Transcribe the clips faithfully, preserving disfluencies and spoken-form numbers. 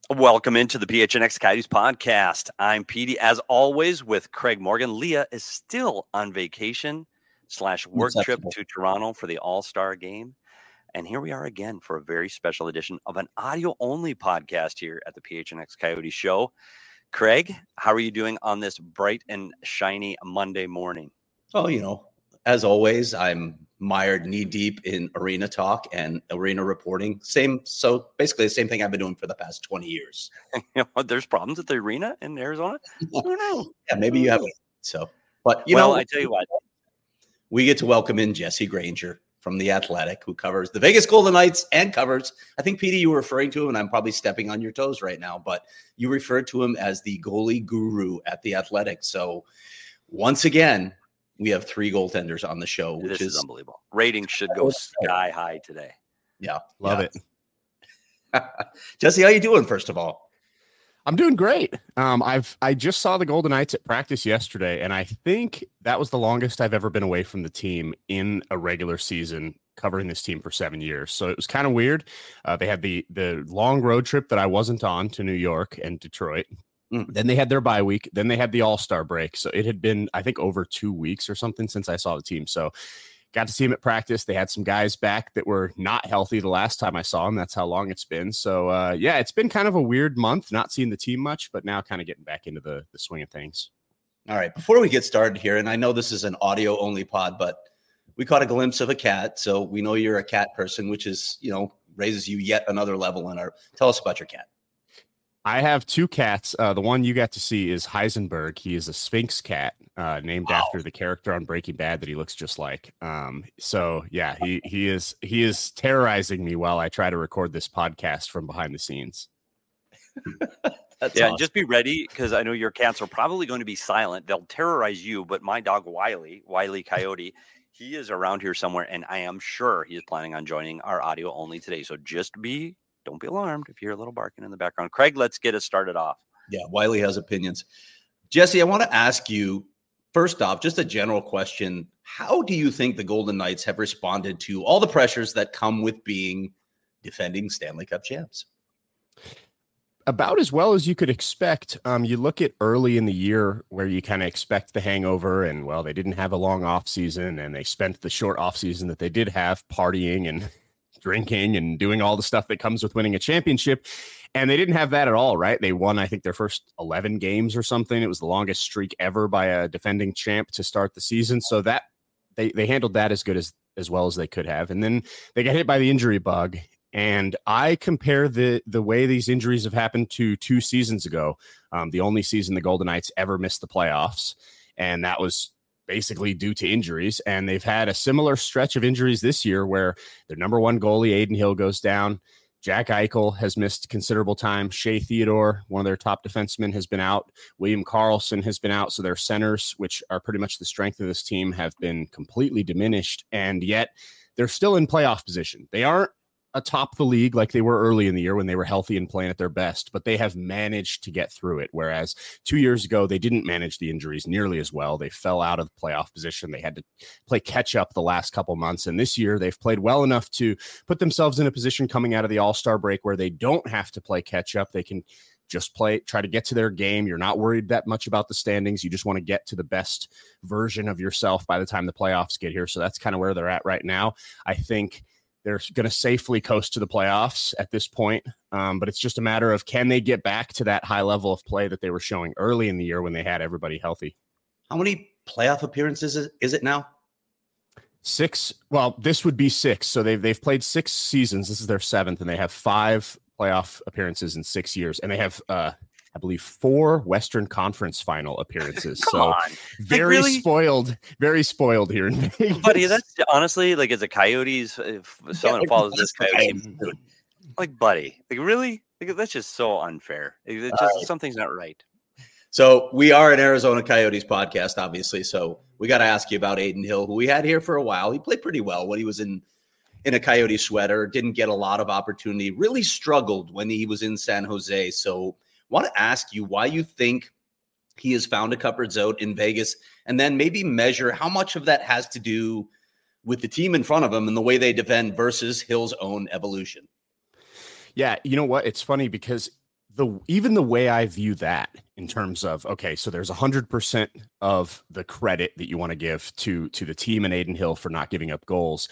Welcome into the P H N X Coyotes podcast. I'm Petey, as always, with Craig Morgan. Leah is still on vacation slash work trip to Toronto for the All-Star game. And here we are again for a very special edition of an audio-only podcast here at the P H N X Coyotes show. Craig, how are you doing on this bright and shiny Monday morning? Oh, you know, as always, I'm mired knee deep in arena talk and arena reporting. Same, so basically the same thing I've been doing for the past twenty years. You know, there's problems at the arena in Arizona. I don't know. Yeah, maybe you haven't. So, but you well, know, I tell you what, we get to welcome in Jesse Granger from The Athletic, who covers the Vegas Golden Knights and covers, I think, Petey, you were referring to him, and I'm probably stepping on your toes right now, but you referred to him as the goalie guru at The Athletic. So once again, we have three goaltenders on the show, which this is, is unbelievable. Ratings should go sky high today. Yeah. Love yeah. it. Jesse, how you doing, first of all? I'm doing great. Um, I've I just saw the Golden Knights at practice yesterday, and I think that was the longest I've ever been away from the team in a regular season, covering this team for seven years. So it was kind of weird. Uh, they had the the long road trip that I wasn't on to New York and Detroit. Mm. Then they had their bye week. Then they had the All-Star break. So it had been, I think, over two weeks or something since I saw the team. So got to see them at practice. They had some guys back that were not healthy the last time I saw them. That's how long it's been. So, uh, yeah, it's been kind of a weird month, not seeing the team much, but now kind of getting back into the, the swing of things. All right. Before we get started here, and I know this is an audio-only pod, but we caught a glimpse of a cat. So we know you're a cat person, which is, you know, raises you yet another level in our – tell us about your cat. I have two cats. Uh, the one you got to see is Heisenberg. He is a Sphinx cat, uh, named wow. after the character on Breaking Bad that he looks just like. Um, so yeah, he he is he is terrorizing me while I try to record this podcast from behind the scenes. That's yeah, awesome. Just be ready, because I know your cats are probably going to be silent. They'll terrorize you, but my dog Wiley, Wiley Coyote, he is around here somewhere, and I am sure he is planning on joining our audio only today. So just be. Don't be alarmed if you hear a little barking in the background. Craig, let's get us started off. Yeah, Wiley has opinions. Jesse, I want to ask you, first off, just a general question. How do you think the Golden Knights have responded to all the pressures that come with being defending Stanley Cup champs? About as well as you could expect. Um, you look at early in the year where you kind of expect the hangover, and, well, they didn't have a long offseason, and they spent the short offseason that they did have partying and drinking and doing all the stuff that comes with winning a championship. And they didn't have that at all, right? They won, I think, their first eleven games or something. It was the longest streak ever by a defending champ to start the season. So that they, they handled that as good as, as well as they could have. And then they got hit by the injury bug. And I compare the, the way these injuries have happened to two seasons ago. Um, the only season the Golden Knights ever missed the playoffs. And that was basically due to injuries, and they've had a similar stretch of injuries this year where their number one goalie, Adin Hill, goes down. Jack Eichel has missed considerable time. Shea Theodore, one of their top defensemen, has been out. William Karlsson has been out. So their centers, which are pretty much the strength of this team, have been completely diminished, and yet they're still in playoff position. They aren't atop the league like they were early in the year when they were healthy and playing at their best, but they have managed to get through it. Whereas two years ago, they didn't manage the injuries nearly as well. They fell out of the playoff position. They had to play catch up the last couple months. And this year they've played well enough to put themselves in a position coming out of the All-Star break where they don't have to play catch up. They can just play, try to get to their game. You're not worried that much about the standings. You just want to get to the best version of yourself by the time the playoffs get here. So that's kind of where they're at right now. I think they're going to safely coast to the playoffs at this point, um, but it's just a matter of, can they get back to that high level of play that they were showing early in the year when they had everybody healthy? How many playoff appearances is, is it now? Six. Well, this would be six. So they've they've played six seasons. This is their seventh, and they have five playoff appearances in six years, and they have uh, I believe, four Western Conference final appearances. Come so on. very like, really? spoiled, very spoiled here in Vegas. Buddy, that's honestly, like, as a Coyotes, if someone Yeah, follows this Coyotes, like, buddy, like, really? Like, that's just so unfair. It's just, right. Something's not right. So we are an Arizona Coyotes podcast, obviously. So we got to ask you about Adin Hill, who we had here for a while. He played pretty well when he was in, in a Coyote sweater, didn't get a lot of opportunity, really struggled when he was in San Jose. So want to ask you why you think he has found a comfort zone in Vegas, and then maybe measure how much of that has to do with the team in front of him and the way they defend versus Hill's own evolution. Yeah, you know what? It's funny because the even the way I view that in terms of, okay, so there's one hundred percent of the credit that you want to give to to the team and Adin Hill for not giving up goals.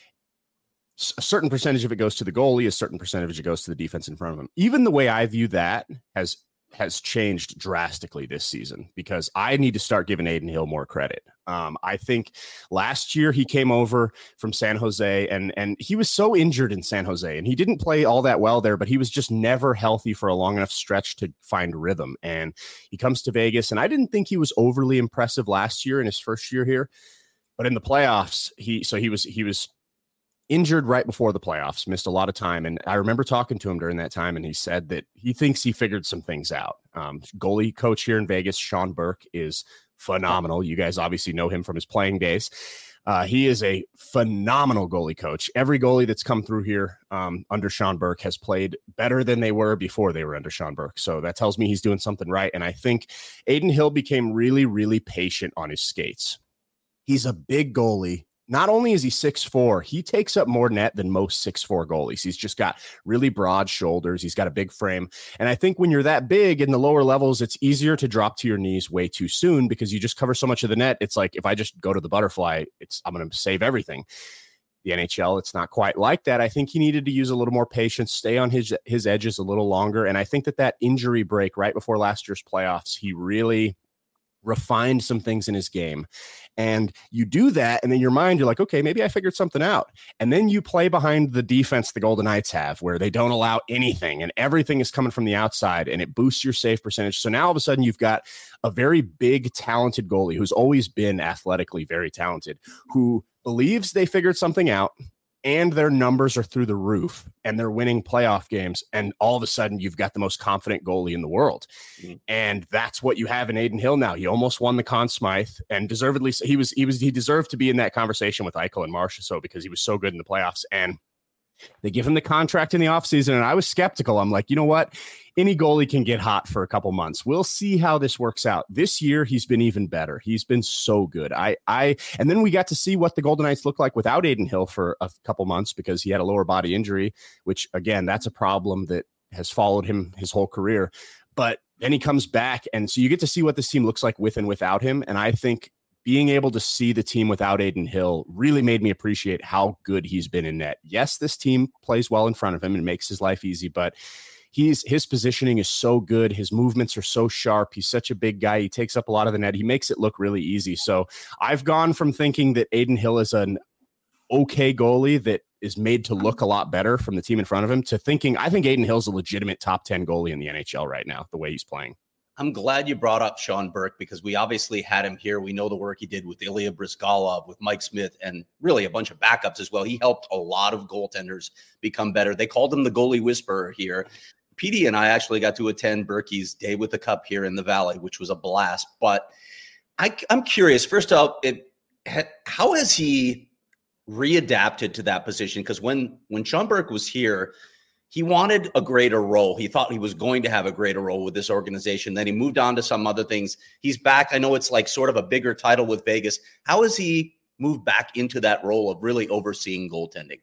A certain percentage of it goes to the goalie, a certain percentage of it goes to the defense in front of him. Even the way I view that has has changed drastically this season, because I need to start giving Adin Hill more credit. Um, I think last year he came over from San Jose and, and he was so injured in San Jose and he didn't play all that well there, but he was just never healthy for a long enough stretch to find rhythm. And he comes to Vegas, and I didn't think he was overly impressive last year in his first year here, but in the playoffs, he, so he was, he was injured right before the playoffs, missed a lot of time. And I remember talking to him during that time, and he said that he thinks he figured some things out. Um, goalie coach here in Vegas, Sean Burke, is phenomenal. You guys obviously know him from his playing days. Uh, he is a phenomenal goalie coach. Every goalie that's come through here um, under Sean Burke has played better than they were before they were under Sean Burke. So that tells me he's doing something right. And I think Adin Hill became really, really patient on his skates. He's a big goalie. Not only is he six foot four, he takes up more net than most six foot four goalies. He's just got really broad shoulders. He's got a big frame. And I think when you're that big in the lower levels, it's easier to drop to your knees way too soon because you just cover so much of the net. It's like, if I just go to the butterfly, it's I'm going to save everything. The N H L, it's not quite like that. I think he needed to use a little more patience, stay on his, his edges a little longer. And I think that that injury break right before last year's playoffs, he really refined some things in his game. And you do that, and in your mind, you're like, okay, maybe I figured something out. And then you play behind the defense the Golden Knights have, where they don't allow anything, and everything is coming from the outside, and it boosts your save percentage. So now all of a sudden you've got a very big, talented goalie who's always been athletically very talented, who believes they figured something out, and their numbers are through the roof, and they're winning playoff games. And all of a sudden you've got the most confident goalie in the world. Mm-hmm. And that's what you have in Adin Hill now. He almost won the Conn Smythe, and deservedly, he was, he was, he deserved to be in that conversation with Eichel and Marchessault, so because he was so good in the playoffs. And they give him the contract in the offseason, and I was skeptical. I'm like, you know what? Any goalie can get hot for a couple months. We'll see how this works out. This year, he's been even better. He's been so good. I, I, and then we got to see what the Golden Knights look like without Adin Hill for a couple months because he had a lower body injury, which again, that's a problem that has followed him his whole career. But then he comes back, and so you get to see what this team looks like with and without him. And I think being able to see the team without Adin Hill really made me appreciate how good he's been in net. Yes, this team plays well in front of him and makes his life easy, but he's his positioning is so good. His movements are so sharp. He's such a big guy. He takes up a lot of the net. He makes it look really easy. So I've gone from thinking that Adin Hill is an okay goalie that is made to look a lot better from the team in front of him to thinking I think Adin Hill's a legitimate top ten goalie in the N H L right now, the way he's playing. I'm glad you brought up Sean Burke because we obviously had him here. We know the work he did with Ilya Bryzgalov, with Mike Smith, and really a bunch of backups as well. He helped a lot of goaltenders become better. They called him the goalie whisperer here. P D and I actually got to attend Burkie's Day with the Cup here in the Valley, which was a blast. But I, I'm curious, first off, it, how has he readapted to that position? Because when, when Sean Burke was here, he wanted a greater role. He thought he was going to have a greater role with this organization. Then he moved on to some other things. He's back. I know it's like sort of a bigger title with Vegas. How has he moved back into that role of really overseeing goaltending?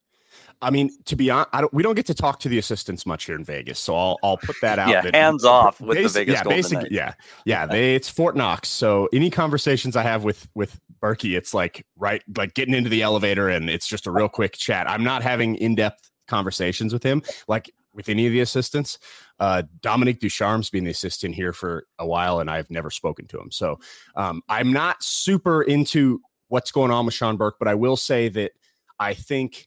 I mean, to be honest, I don't, we don't get to talk to the assistants much here in Vegas, so I'll I'll put that out. Yeah, that hands off with basic, the Vegas yeah, Golden basic, Knights. Yeah, yeah, they, it's Fort Knox. So any conversations I have with with Berkey, it's like right, like getting into the elevator, and it's just a real quick chat. I'm not having in depth conversations with him like with any of the assistants. Uh, Dominique Ducharme's been the assistant here for a while, and I've never spoken to him. So um, I'm not super into what's going on with Sean Burke, but I will say that I think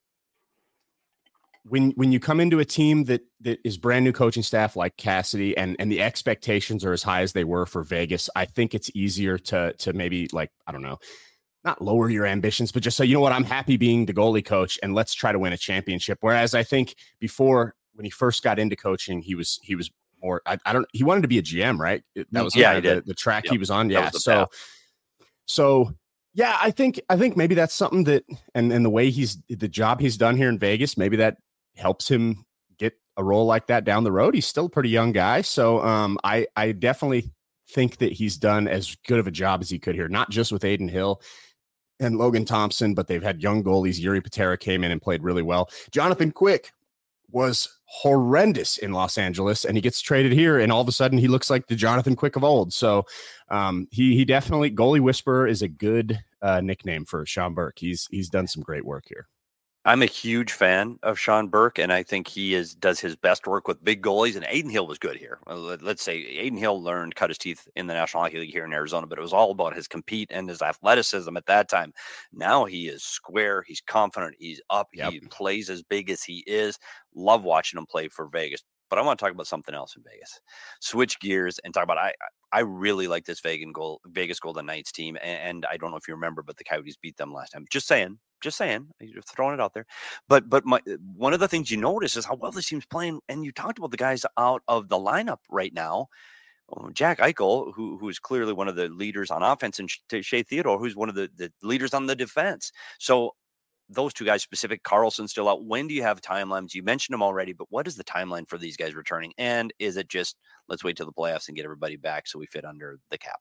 when when you come into a team that that is brand new coaching staff like Cassidy, and and the expectations are as high as they were for Vegas, I think it's easier to to maybe like, I don't know, not lower your ambitions, but just say, you know what, I'm happy being the goalie coach and let's try to win a championship. Whereas I think before, when he first got into coaching, he was, he was more, I, I don't, he wanted to be a G M, right? That was yeah, kind of the, the track yep. he was on. Yeah. Was so, path. so yeah, I think, I think maybe that's something that, and, and the way he's, the job he's done here in Vegas, maybe that helps him get a role like that down the road. He's still a pretty young guy. So um, I, I definitely think that he's done as good of a job as he could here, not just with Adin Hill and Logan Thompson, but they've had young goalies. Yuri Patera came in and played really well. Jonathan Quick was horrendous in Los Angeles, and he gets traded here, and all of a sudden he looks like the Jonathan Quick of old. So um, he he definitely, goalie whisperer is a good uh, nickname for Sean Burke. He's he's done some great work here. I'm a huge fan of Sean Burke, and I think he is does his best work with big goalies. And Adin Hill was good here. Let's say Adin Hill learned, cut his teeth in the National Hockey League here in Arizona, but it was all about his compete and his athleticism at that time. Now he is square. He's confident. He's up. Yep. He plays as big as he is. Love watching him play for Vegas. But I want to talk about something else in Vegas. Switch gears and talk about I. I really like this Vegas, goal, Vegas Golden Knights team, and, and I don't know if you remember, but the Coyotes beat them last time. Just saying, just saying, you're throwing it out there. But but my one of the things you notice is how well this team's playing, and you talked about the guys out of the lineup right now. Jack Eichel, who who is clearly one of the leaders on offense, and Shea Theodore, who's one of the, the leaders on the defense. So those two guys specific, Carlson still out. When do you have timelines? You mentioned them already, but what is the timeline for these guys returning? And is it just, let's wait till the playoffs and get everybody back so we fit under the cap?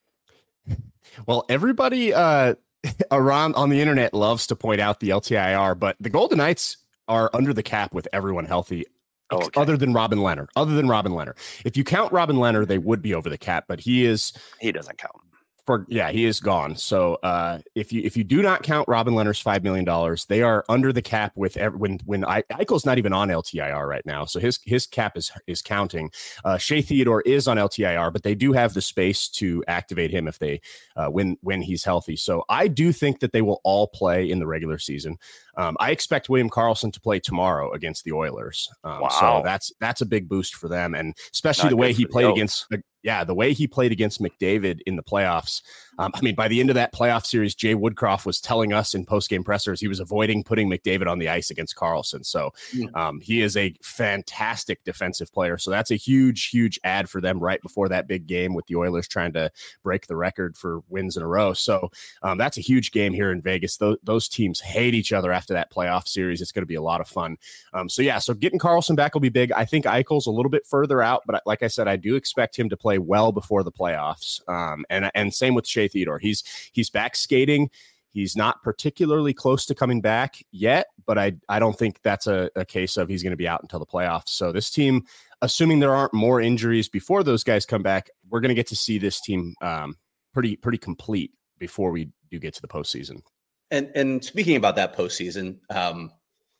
Well, everybody uh, around on the internet loves to point out the L T I R, but the Golden Knights are under the cap with everyone healthy. Oh, okay. Other than Robin Lehner, other than Robin Lehner. If you count Robin Lehner, they would be over the cap, but he is, he doesn't count. For, yeah, he is gone. So uh, if you if you do not count Robin Lehner's five million dollars, they are under the cap with every, when when I, Eichel's not even on L T I R right now, so his his cap is is counting. Uh, Shea Theodore is on L T I R, but they do have the space to activate him if they uh, when when he's healthy. So I do think that they will all play in the regular season. Um, I expect William Karlsson to play tomorrow against the Oilers. Um, wow. So that's that's a big boost for them, and especially not the way he played against. The, Yeah, the way he played against McDavid in the playoffs. Um, I mean, by the end of that playoff series, Jay Woodcroft was telling us in post-game pressers he was avoiding putting McDavid on the ice against Karlsson. So um, he is a fantastic defensive player. So that's a huge, huge add for them right before that big game with the Oilers trying to break the record for wins in a row. So um, that's a huge game here in Vegas. Those, those teams hate each other after that playoff series. It's going to be a lot of fun. Um, so, yeah, so getting Karlsson back will be big. I think Eichel's a little bit further out, but like I said, I do expect him to play well before the playoffs. Um, and, and same with Shea Theodore. He's, he's back skating. He's not particularly close to coming back yet, but I, I don't think that's a, a case of he's going to be out until the playoffs. So this team, assuming there aren't more injuries before those guys come back, we're going to get to see this team um, pretty, pretty complete before we do get to the postseason. And, and speaking about that postseason, um,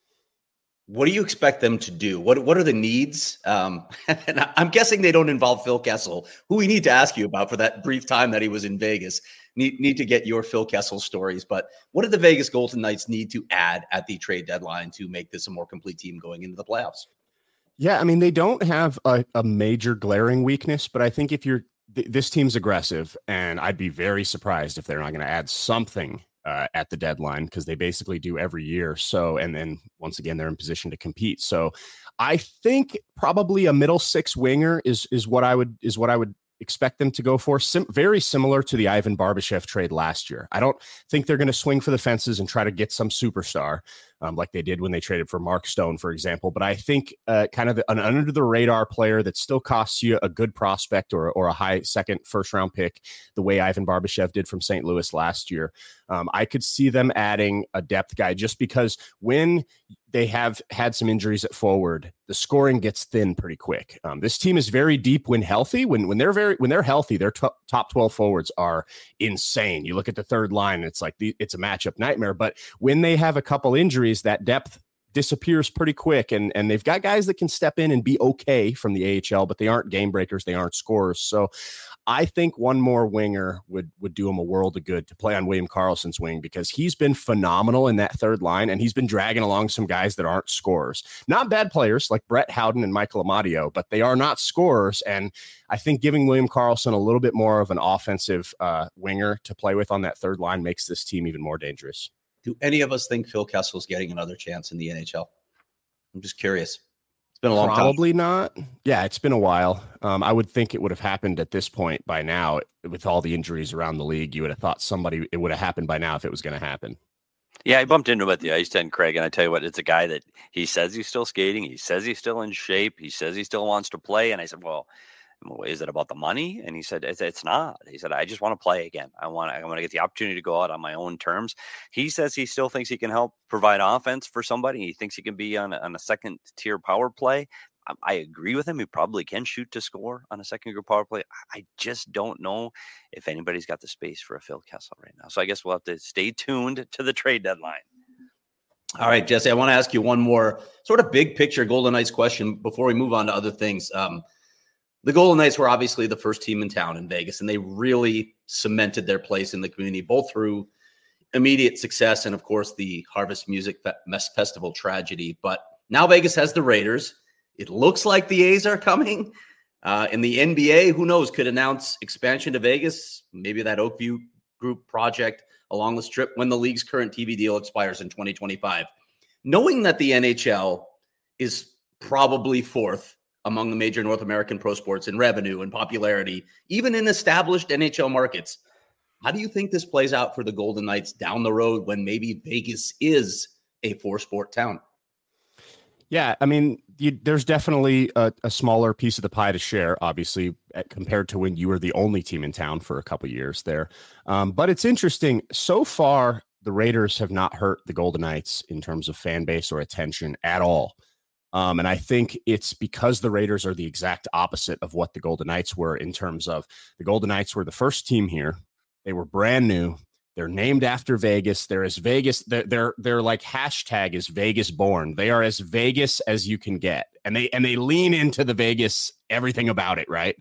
what do you expect them to do? What What are the needs? Um, and I'm guessing they don't involve Phil Kessel, who we need to ask you about for that brief time that he was in Vegas. Need need to get your Phil Kessel stories. But what do the Vegas Golden Knights need to add at the trade deadline to make this a more complete team going into the playoffs? Yeah, I mean, they don't have a, a major glaring weakness, but I think if you're th- this team's aggressive, and I'd be very surprised if they're not going to add something Uh, at the deadline, because they basically do every year. So, and then once again, they're in position to compete. So I think probably a middle six winger is, is what I would, is what I would expect them to go for. Sim- very similar to the Ivan Barbashev trade last year. I don't think they're going to swing for the fences and try to get some superstar um, like they did when they traded for Mark Stone, for example. But I think uh, kind of an under the radar player that still costs you a good prospect or, or a high second, first round pick, the way Ivan Barbashev did from Saint Louis last year. Um, I could see them adding a depth guy just because when they have had some injuries at forward, the scoring gets thin pretty quick. Um, this team is very deep when healthy. When when they're very when they're healthy, their t- top twelve forwards are insane. You look at the third line, it's like the, it's a matchup nightmare. But when they have a couple injuries, that depth disappears pretty quick, and and they've got guys that can step in and be okay from the A H L, but they aren't game breakers, they aren't scorers. So I think one more winger would would do him a world of good to play on William Karlsson's wing, because he's been phenomenal in that third line, and he's been dragging along some guys that aren't scorers. Not bad players like Brett Howden and Michael Amadio, but they are not scorers. And I think giving William Karlsson a little bit more of an offensive uh, winger to play with on that third line makes this team even more dangerous. Do any of us think Phil Kessel's getting another chance in the N H L? I'm just curious. It's been a long Probably time. Probably not. Yeah, it's been a while. Um, I would think it would have happened at this point by now. With all the injuries around the league, you would have thought somebody, it would have happened by now if it was going to happen. Yeah, I bumped into him at the ice tent, Craig, and I tell you what, it's a guy that he says he's still skating. He says he's still in shape. He says he still wants to play. And I said, well, Is it about the money? And he said, it's, it's not. He said, I just want to play again. I want, I want to get the opportunity to go out on my own terms. He says he still thinks he can help provide offense for somebody. He thinks he can be on, on a second tier power play. I, I agree with him. He probably can shoot to score on a second group power play. I just don't know if anybody's got the space for a Phil Kessel right now. So I guess we'll have to stay tuned to the trade deadline. All right, Jesse, I want to ask you one more sort of big picture Golden Knights question before we move on to other things. Um, The Golden Knights were obviously the first team in town in Vegas, and they really cemented their place in the community, both through immediate success and, of course, the Harvest Music Festival tragedy. But now Vegas has the Raiders. It looks like the A's are coming. Uh, and the N B A, who knows, could announce expansion to Vegas, maybe that Oakview Group project along the Strip when the league's current T V deal expires in twenty twenty-five. Knowing that the N H L is probably fourth among the major North American pro sports in revenue and popularity, even in established N H L markets, how do you think this plays out for the Golden Knights down the road when maybe Vegas is a four-sport town? Yeah, I mean, you, there's definitely a, a smaller piece of the pie to share, obviously, at, compared to when you were the only team in town for a couple years there. Um, but it's interesting. So far, the Raiders have not hurt the Golden Knights in terms of fan base or attention at all. Um, and I think it's because the Raiders are the exact opposite of what the Golden Knights were in terms of the Golden Knights were the first team here. They were brand new. They're named after Vegas. They're as Vegas. They're, they're, they're like hashtag is Vegas born. They are as Vegas as you can get. And they, and they lean into the Vegas, everything about it. Right.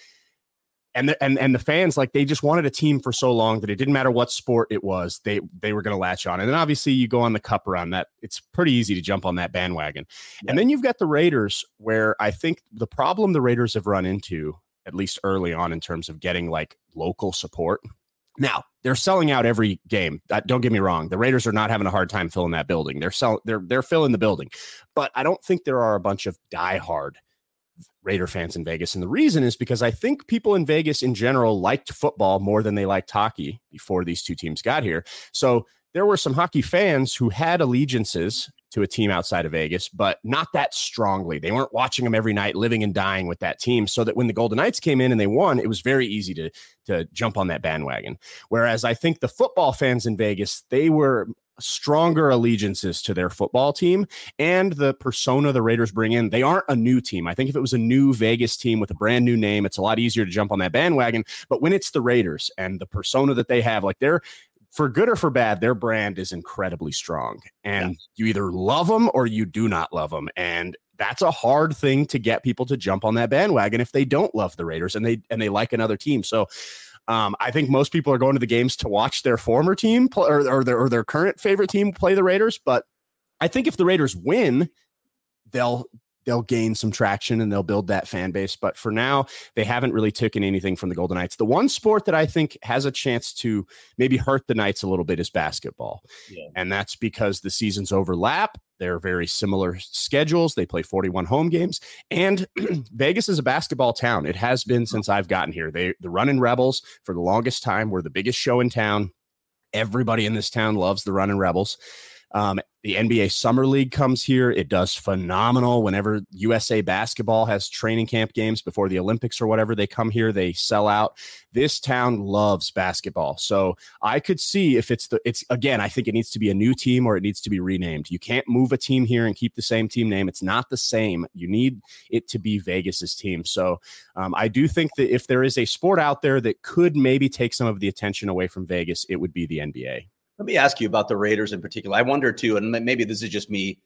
And the, and, and the fans, like, they just wanted a team for so long that it didn't matter what sport it was. They, they were going to latch on. And then obviously you go on the cup run that it's pretty easy to jump on that bandwagon. Yeah. And then you've got the Raiders, where I think the problem the Raiders have run into, at least early on, in terms of getting like local support. Now they're selling out every game. Uh, don't get me wrong. The Raiders are not having a hard time filling that building. They're selling, they're, they're filling the building, but I don't think there are a bunch of diehard Raider fans in Vegas. And the reason is because I think people in Vegas in general liked football more than they liked hockey before these two teams got here. So there were some hockey fans who had allegiances to a team outside of Vegas, but not that strongly. They weren't watching them every night, living and dying with that team, so that when the Golden Knights came in and they won, it was very easy to, to jump on that bandwagon. Whereas I think the football fans in Vegas, they were stronger allegiances to their football team and the persona the Raiders bring in. They aren't a new team. I think if it was a new Vegas team with a brand new name, it's a lot easier to jump on that bandwagon. But when it's the Raiders and the persona that they have, like, they're, for good or for bad, their brand is incredibly strong. And yeah. you either love them or you do not love them. And that's a hard thing to get people to jump on that bandwagon if they don't love the Raiders and they and they like another team. So um, I think most people are going to the games to watch their former team play, or, or, their, or their current favorite team play the Raiders. But I think if the Raiders win, they'll they'll gain some traction and they'll build that fan base. But for now, they haven't really taken anything from the Golden Knights. The one sport that I think has a chance to maybe hurt the Knights a little bit is basketball. Yeah. And that's because the seasons overlap. They're very similar schedules. They play forty-one home games. And Vegas is a basketball town. It has been since I've gotten here. They, the Runnin' Rebels, for the longest time, were the biggest show in town. Everybody in this town loves the Runnin' Rebels. Um, the N B A Summer League comes here. It does phenomenal. Whenever U S A Basketball has training camp games before the Olympics or whatever, they come here, they sell out. This town loves basketball. So I could see if it's the, it's again, I think it needs to be a new team or it needs to be renamed. You can't move a team here and keep the same team name. It's not the same. You need it to be Vegas's team. So um, I do think that if there is a sport out there that could maybe take some of the attention away from Vegas, it would be the N B A. Let me ask you about the Raiders in particular. I wonder too, and maybe this is just me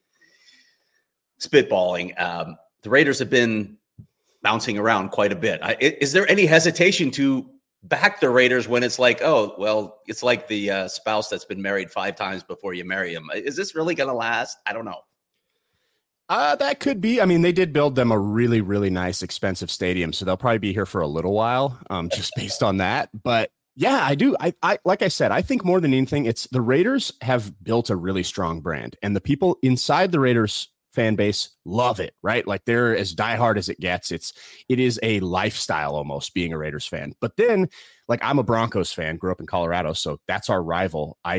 spitballing. Um, the Raiders have been bouncing around quite a bit. I, is there any hesitation to back the Raiders when it's like, oh, well, it's like the uh, spouse that's been married five times before you marry him? Is this really going to last? I don't know. Uh, that could be. I mean, they did build them a really, really nice, expensive stadium, so they'll probably be here for a little while, um, just based on that. But yeah, I do. I, I, like I said, I think more than anything, it's the Raiders have built a really strong brand, and the people inside the Raiders fan base love it, right? Like, they're as diehard as it gets. It's, it is a lifestyle almost being a Raiders fan. But then, like, I'm a Broncos fan, grew up in Colorado, so that's our rival. I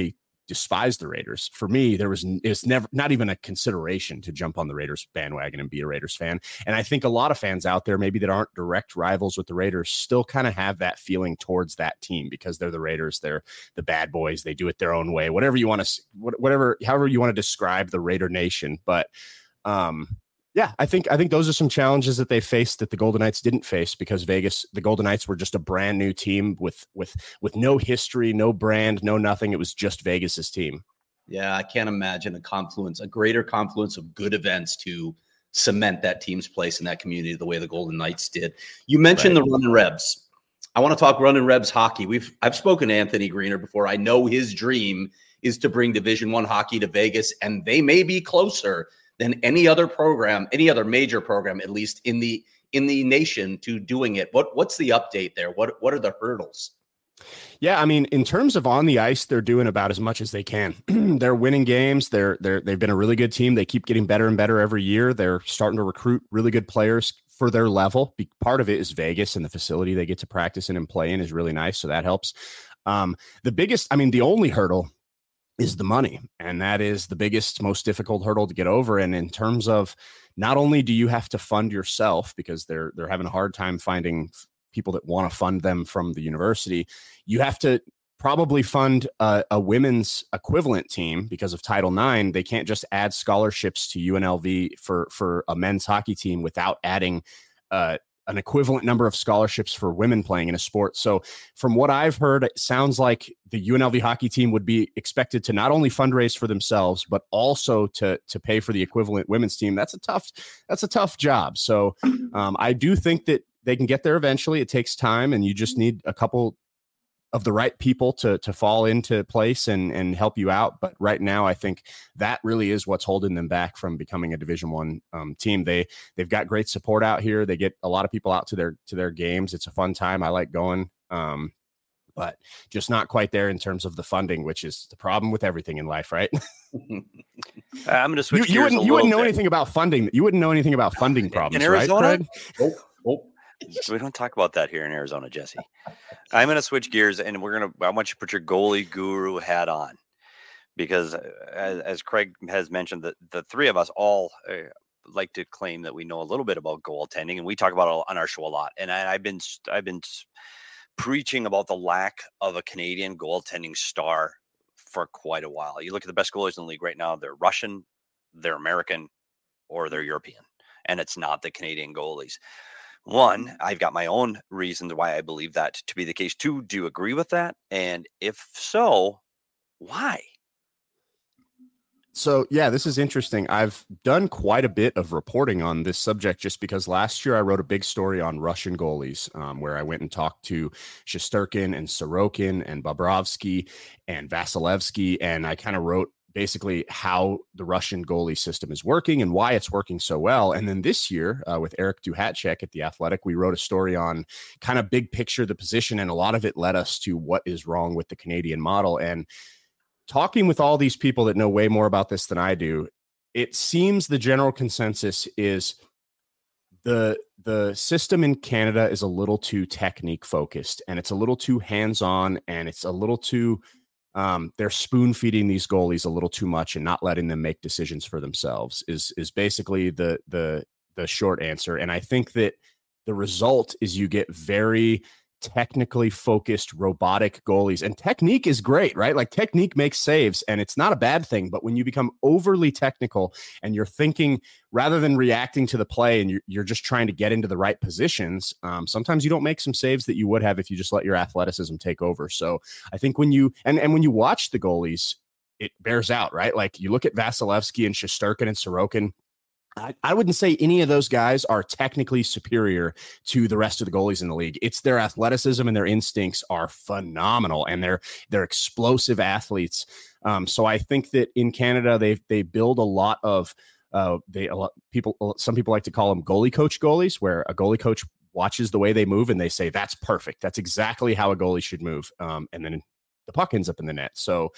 despise the Raiders. For me, there was it's never not even a consideration to jump on the Raiders bandwagon and be a Raiders fan. And I think a lot of fans out there, maybe that aren't direct rivals with the Raiders, still kind of have that feeling towards that team because they're the Raiders. They're the bad boys. They do it their own way, whatever you want to, whatever, however you want to describe the Raider Nation. But um, yeah, I think I think those are some challenges that they faced that the Golden Knights didn't face because Vegas, the Golden Knights were just a brand new team with with with no history, no brand, no nothing. It was just Vegas's team. Yeah, I can't imagine a confluence, a greater confluence of good events to cement that team's place in that community the way the Golden Knights did. You mentioned right. the Runnin' Rebs. I want to talk Runnin' Rebs hockey. We've I've spoken to Anthony Greener before. I know his dream is to bring Division One hockey to Vegas, and they may be closer than any other program, any other major program, at least in the in the nation, to doing it. What what's the update there? What what are the hurdles? Yeah, I mean, in terms of on the ice, they're doing about as much as they can. They're winning games. They're they're they've been a really good team. They keep getting better and better every year. They're starting to recruit really good players for their level. Be, part of it is Vegas, and the facility they get to practice in and play in is really nice, so that helps. Um, the biggest, I mean, the only hurdle is the money. And that is the biggest, most difficult hurdle to get over. And in terms of not only do you have to fund yourself because they're, they're having a hard time finding people that want to fund them from the university, you have to probably fund a, a women's equivalent team because of Title nine. They can't just add scholarships to U N L V for, for a men's hockey team without adding uh, an equivalent number of scholarships for women playing in a sport. So from what I've heard, it sounds like the U N L V hockey team would be expected to not only fundraise for themselves, but also to, to pay for the equivalent women's team. That's a tough, that's a tough job. So um, I do think that they can get there eventually. It takes time, and you just need a couple of the right people to to fall into place and and help you out. But right now, I think that really is what's holding them back from becoming a Division One um, team. They they've got great support out here. They get a lot of people out to their to their games. It's a fun time. I like going, um, but just not quite there in terms of the funding, which is the problem with everything in life, right? I'm going to switch. You, you wouldn't you wouldn't know bit. anything about funding. You wouldn't know anything about funding problems, in Arizona? right, Craig? Oh, oh. We don't talk about that here in Arizona, Jesse. I'm going to switch gears, and we're going to. I want you to put your goalie guru hat on, because as, as Craig has mentioned, that the three of us all uh, like to claim that we know a little bit about goaltending, and we talk about it on our show a lot. And I, I've been I've been preaching about the lack of a Canadian goaltending star for quite a while. You look at the best goalies in the league right now; they're Russian, they're American, or they're European, and it's not the Canadian goalies. One, I've got my own reasons why I believe that to be the case. Two, do you agree with that? And if so, why? So, yeah, this is interesting. I've done quite a bit of reporting on this subject just because last year I wrote a big story on Russian goalies um, where I went and talked to Shesterkin and Sorokin and Bobrovsky and Vasilevsky. And I kind of wrote basically how the Russian goalie system is working and why it's working so well. And then this year uh, with Eric Duhatschek at The Athletic, we wrote a story on kind of big picture, the position, and a lot of it led us to what is wrong with the Canadian model. And talking with all these people that know way more about this than I do, it seems the general consensus is the the system in Canada is a little too technique focused, and it's a little too hands-on, and it's a little too Um, they're spoon feeding these goalies a little too much and not letting them make decisions for themselves is, is basically the, the, the short answer. And I think that the result is you get very technically focused robotic goalies, and technique is great, right? Like technique makes saves and it's not a bad thing, but when you become overly technical and you're thinking rather than reacting to the play and you're, you're just trying to get into the right positions, um, sometimes you don't make some saves that you would have if you just let your athleticism take over. So I think when you, and, and when you watch the goalies, it bears out, right? Like you look at Vasilevsky and Shesterkin and Sorokin, I, I wouldn't say any of those guys are technically superior to the rest of the goalies in the league. It's their athleticism and their instincts are phenomenal, and they're they're explosive athletes. Um, so I think that in Canada they they build a lot of uh, they a lot people. Some people like to call them goalie coach goalies, where a goalie coach watches the way they move and they say that's perfect. That's exactly how a goalie should move, um, and then the puck ends up in the net. So.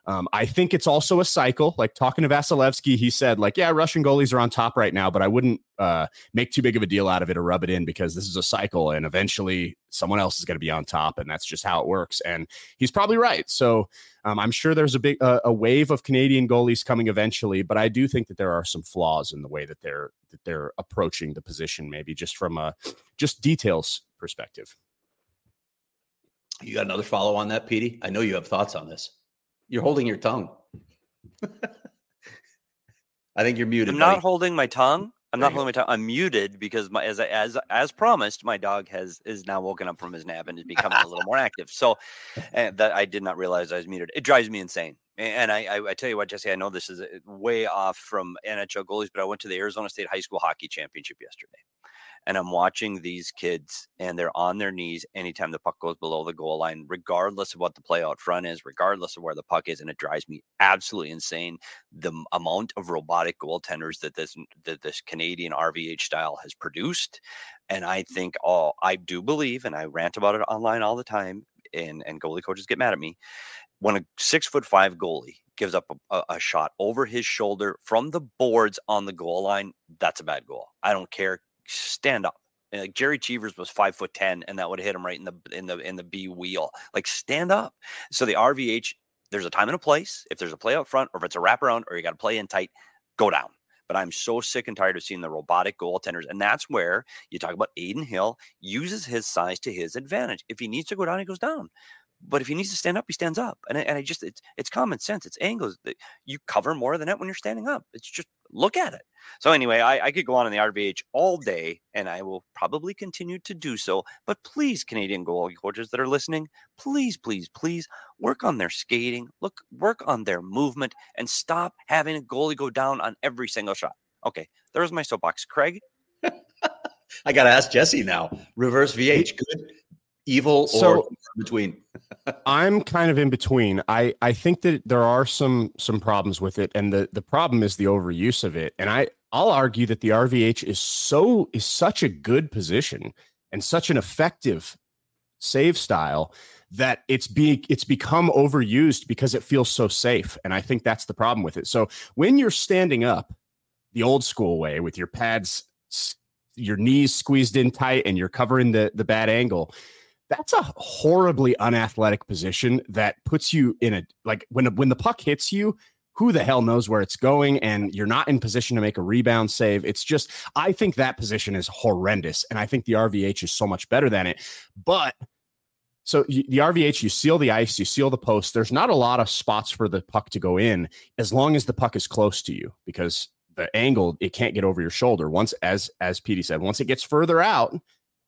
Um, I think it's also a cycle. Like talking to Vasilevsky, he said, like, yeah, Russian goalies are on top right now, but I wouldn't uh, make too big of a deal out of it or rub it in because this is a cycle and eventually someone else is going to be on top. And that's just how it works. And he's probably right. So um, I'm sure there's a big uh, a wave of Canadian goalies coming eventually, but I do think that there are some flaws in the way that they're that they're approaching the position, maybe just from a just details perspective. You got another follow on that, Petey? I know you have thoughts on this. You're holding your tongue. I think you're muted. I'm buddy. not holding my tongue. I'm There not holding my tongue. I'm muted because my as as as promised, my dog has is now woken up from his nap and is becoming a little more active. So and that I did not realize I was muted. It drives me insane. And I, I I tell you what, Jesse, I know this is way off from N H L goalies, but I went to the Arizona State High School Hockey Championship yesterday. And I'm watching these kids and they're on their knees anytime the puck goes below the goal line, regardless of what the play out front is, regardless of where the puck is. And it drives me absolutely insane. The amount of robotic goaltenders that this, that this Canadian R V H style has produced. And I think, oh, I do believe, and I rant about it online all the time, and, and goalie coaches get mad at me. When a six foot five goalie gives up a, a shot over his shoulder from the boards on the goal line, that's a bad goal. I don't care. Stand up. Like Jerry Cheevers was five foot ten, and that would hit him right in the in the in the B wheel. Like stand up. So the R V H, there's a time and a place. If there's a play out front, or if it's a wraparound, or you got to play in tight, go down. But I'm so sick and tired of seeing the robotic goaltenders, and that's where you talk about Adin Hill uses his size to his advantage. If he needs to go down, he goes down. But if he needs to stand up, he stands up. And I, and I just, it's it's common sense. It's angles. You cover more of the net when you're standing up. It's just, look at it. So anyway, I, I could go on in the R V H all day, and I will probably continue to do so. But please, Canadian goalie coaches that are listening, please, please, please work on their skating, look, work on their movement, and stop having a goalie go down on every single shot. Okay, there's my soapbox. Craig? I got to ask Jesse now. Reverse V H, good, evil, or so, between? I'm kind of in between. I, I think that there are some some problems with it, and the, the problem is the overuse of it. And I, I'll argue that the R V H is so is such a good position and such an effective save style that it's be it's become overused because it feels so safe. And I think that's the problem with it. So when you're standing up the old school way with your pads, your knees squeezed in tight, and you're covering the, the bad angle, that's a horribly unathletic position that puts you in a, like when, when the puck hits you, who the hell knows where it's going, and you're not in position to make a rebound save. It's just, I think that position is horrendous. And I think the R V H is so much better than it. But so you, the R V H, you seal the ice, you seal the post. There's not a lot of spots for the puck to go in as long as the puck is close to you, because the angle, it can't get over your shoulder. Once, as, as Petey said, once it gets further out,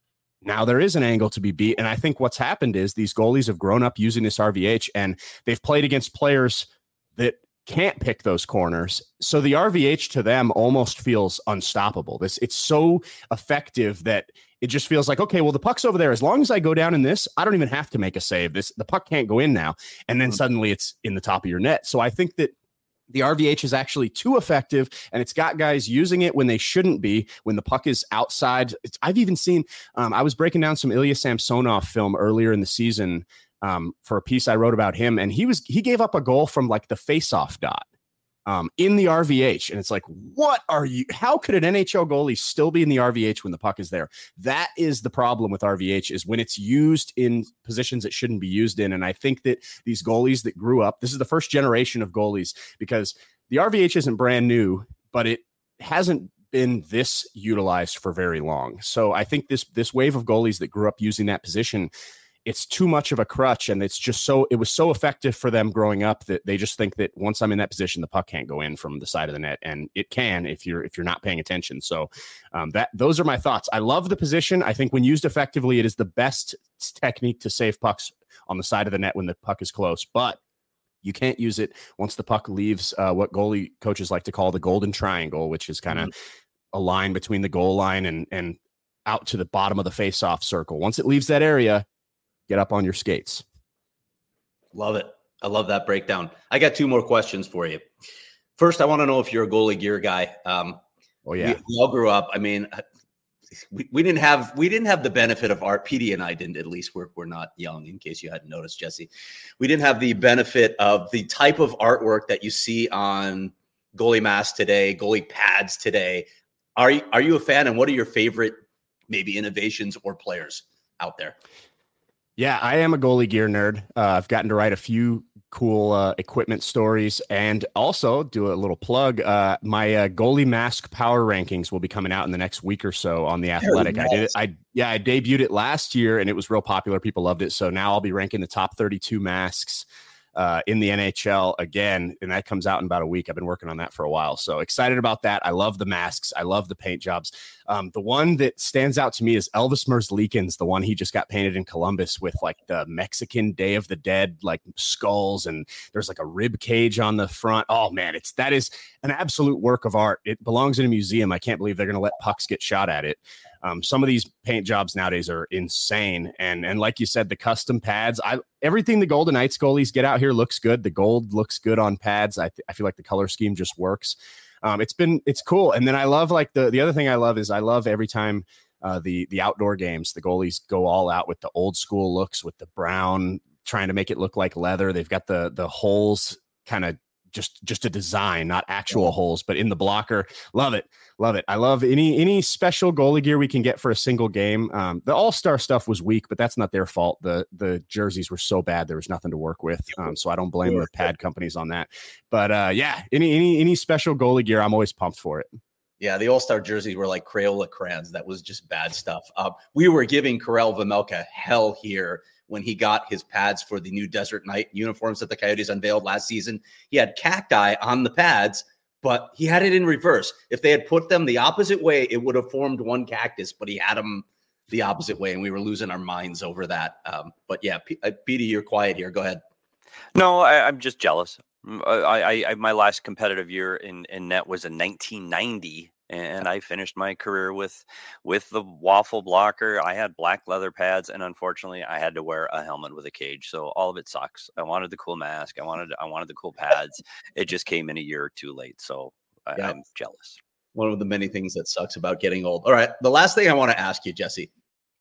now there is an angle to be beat. And I think what's happened is these goalies have grown up using this R V H, and they've played against players that can't pick those corners. So the R V H to them almost feels unstoppable. This it's so effective that it just feels like, okay, well, the puck's over there. As long as I go down in this, I don't even have to make a save. This the puck can't go in now. And then suddenly it's in the top of your net. So I think that the R V H is actually too effective, and it's got guys using it when they shouldn't be, when the puck is outside. It's, I've even seen, um, I was breaking down some Ilya Samsonov film earlier in the season um, for a piece I wrote about him, and he was he gave up a goal from like the face-off dot um, in the R V H, and it's like, what are you? How could an N H L goalie still be in the R V H when the puck is there? That is the problem with R V H, is when it's used in positions it shouldn't be used in. And I think that these goalies that grew up, this is the first generation of goalies, because the R V H isn't brand new, but it hasn't been this utilized for very long. So I think this this wave of goalies that grew up using that position, it's too much of a crutch, and it's just so it was so effective for them growing up that they just think that once I'm in that position, the puck can't go in from the side of the net, and it can if you're if you're not paying attention. So um, that those are my thoughts. I love the position. I think when used effectively, it is the best technique to save pucks on the side of the net when the puck is close, but you can't use it once the puck leaves uh, what goalie coaches like to call the golden triangle, which is kind of mm-hmm. a line between the goal line and and out to the bottom of the face-off circle. Once it leaves that area, get up on your skates. Love it. I love that breakdown. I got two more questions for you. First, I want to know if you're a goalie gear guy. Um, oh, yeah. We, we all grew up. I mean, we, we didn't have we didn't have the benefit of art. P D and I didn't, at least. We're we're not young, in case you hadn't noticed, Jesse. We didn't have the benefit of the type of artwork that you see on goalie masks today, goalie pads today. Are you are you a fan? And what are your favorite maybe innovations or players out there? Yeah, I am a goalie gear nerd. Uh, I've gotten to write a few cool uh, equipment stories, and also do a little plug. Uh, my uh, goalie mask power rankings will be coming out in the next week or so on The Athletic. Nice. I did it. I yeah, I debuted it last year, and it was real popular. People loved it. So now I'll be ranking the top thirty-two masks uh, in the N H L again, and that comes out in about a week. I've been working on that for a while, so excited about that. I love the masks. I love the paint jobs. Um, the one that stands out to me is Elvis Merzlikins, the one he just got painted in Columbus with like the Mexican Day of the Dead, like skulls, and there's like a rib cage on the front. Oh man, it's that is an absolute work of art. It belongs in a museum. I can't believe they're going to let pucks get shot at it. Um, some of these paint jobs nowadays are insane. And, and like you said, the custom pads, I, everything the Golden Knights goalies get out here looks good. The gold looks good on pads. I, th- I feel like the color scheme just works. Um, it's been, it's cool. And then I love like the, the other thing I love is I love every time uh, the, the outdoor games, the goalies go all out with the old school looks with the brown, trying to make it look like leather. They've got the, the holes kind of just, just a design, not actual holes, but in the blocker. Love it. Love it. I love any, any special goalie gear we can get for a single game. Um, the all-star stuff was weak, but that's not their fault. The, the jerseys were so bad. There was nothing to work with. Um, so I don't blame the pad companies on that, but uh, yeah, any, any, any special goalie gear, I'm always pumped for it. Yeah, the All-Star jerseys were like Crayola crayons. That was just bad stuff. Uh, we were giving Karel Vejmelka hell here when he got his pads for the new Desert Knight uniforms that the Coyotes unveiled last season. He had cacti on the pads, but he had it in reverse. If they had put them the opposite way, it would have formed one cactus, but he had them the opposite way, and we were losing our minds over that. Um, but yeah, P- uh, Petey, you're quiet here. Go ahead. No, I, I'm just jealous. I, I, my last competitive year in, in net was in nineteen ninety, and I finished my career with with the waffle blocker. I had black leather pads, and unfortunately, I had to wear a helmet with a cage. So all of it sucks. I wanted the cool mask. I wanted I wanted the cool pads. It just came in a year too late. So I, yeah. I'm jealous. One of the many things that sucks about getting old. All right, the last thing I want to ask you, Jesse,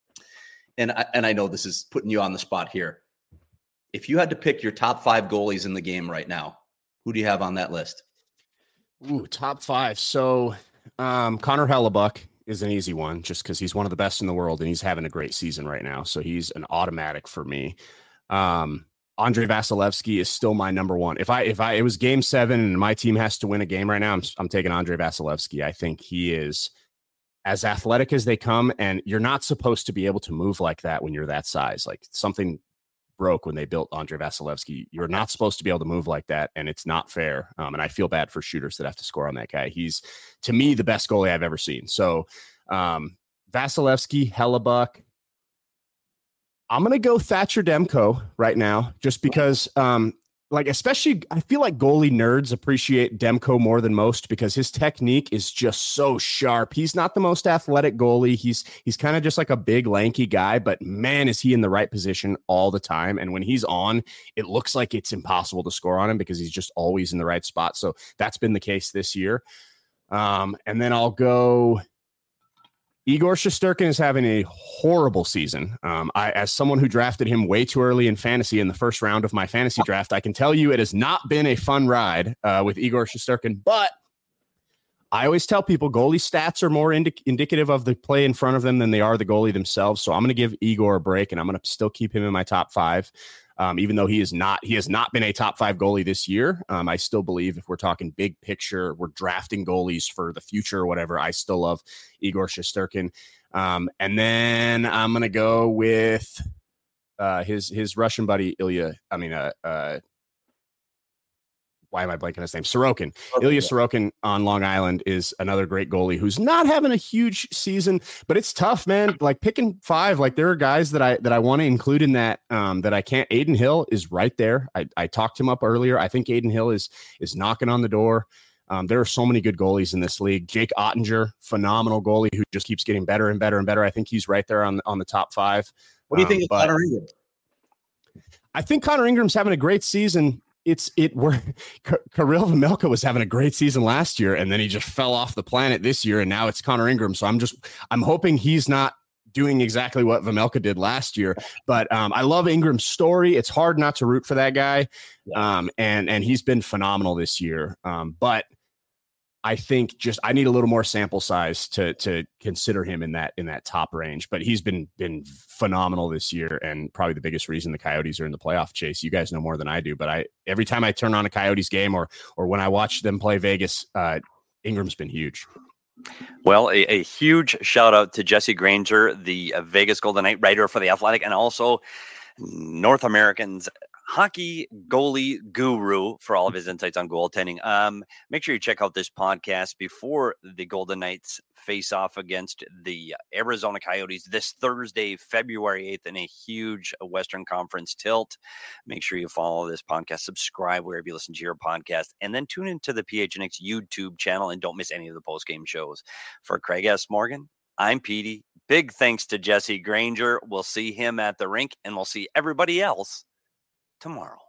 and I, and I know this is putting you on the spot here. If you had to pick your top five goalies in the game right now, who do you have on that list? Ooh, top five. So um, Connor Hellebuck is an easy one just because he's one of the best in the world and he's having a great season right now. So he's an automatic for me. Um, Andrei Vasilevsky is still my number one. If I if I it was game seven and my team has to win a game right now, I'm I'm taking Andrei Vasilevsky. I think he is as athletic as they come, and you're not supposed to be able to move like that when you're that size. Like something broke when they built Andrei Vasilevsky. You're not supposed to be able to move like that, and it's not fair. Um, and I feel bad for shooters that have to score on that guy. He's, to me, the best goalie I've ever seen. So um, Vasilevsky, Hellebuck. I'm going to go Thatcher Demko right now, just because, um, like, especially, I feel like goalie nerds appreciate Demko more than most because his technique is just so sharp. He's not the most athletic goalie. He's he's kind of just like a big, lanky guy, but man, is he in the right position all the time. And when he's on, it looks like it's impossible to score on him because he's just always in the right spot. So that's been the case this year. Um, and then I'll go... Igor Shesterkin is having a horrible season. Um, I, as someone who drafted him way too early in fantasy in the first round of my fantasy draft, I can tell you it has not been a fun ride uh, with Igor Shesterkin. But I always tell people goalie stats are more indi- indicative of the play in front of them than they are the goalie themselves. So I'm going to give Igor a break, and I'm going to still keep him in my top five. Um, even though he is not, he has not been a top five goalie this year. Um, I still believe if we're talking big picture, we're drafting goalies for the future or whatever, I still love Igor Shesterkin. Um, and then I'm going to go with uh, his, his Russian buddy, Ilya. I mean, uh, uh, why am I blanking his name? Sorokin. Okay. Ilya Sorokin on Long Island is another great goalie who's not having a huge season, but it's tough, man. Like picking five, like there are guys that I that I want to include in that um, that I can't. Aiden Hill is right there. I, I talked him up earlier. I think Aiden Hill is is knocking on the door. Um, there are so many good goalies in this league. Jake Ottinger, phenomenal goalie who just keeps getting better and better and better. I think he's right there on on the top five. What do you think um, of Connor Ingram? I think Connor Ingram's having a great season. it's it were Kirill Vejmelka was having a great season last year, and then he just fell off the planet this year, and now it's Connor Ingram. So I'm just I'm hoping he's not doing exactly what Vejmelka did last year. But um, I love Ingram's story. It's hard not to root for that guy, um, and and he's been phenomenal this year. Um, but I think just I need a little more sample size to to consider him in that in that top range. But he's been been phenomenal this year, and probably the biggest reason the Coyotes are in the playoff chase. You guys know more than I do, but I every time I turn on a Coyotes game or or when I watch them play Vegas, uh, Ingram's been huge. Well, a, a huge shout out to Jesse Granger, the uh, Vegas Golden Knight writer for The Athletic, and also North American's hockey goalie guru for all of his insights on goaltending. Um, make sure you check out this podcast before the Golden Knights face off against the Arizona Coyotes this Thursday, February eighth, in a huge Western Conference tilt. Make sure you follow this podcast, subscribe wherever you listen to your podcast, and then tune into the P H N X YouTube channel and don't miss any of the post-game shows. For Craig S. Morgan, I'm Petey. Big thanks to Jesse Granger. We'll see him at the rink, and we'll see everybody else tomorrow.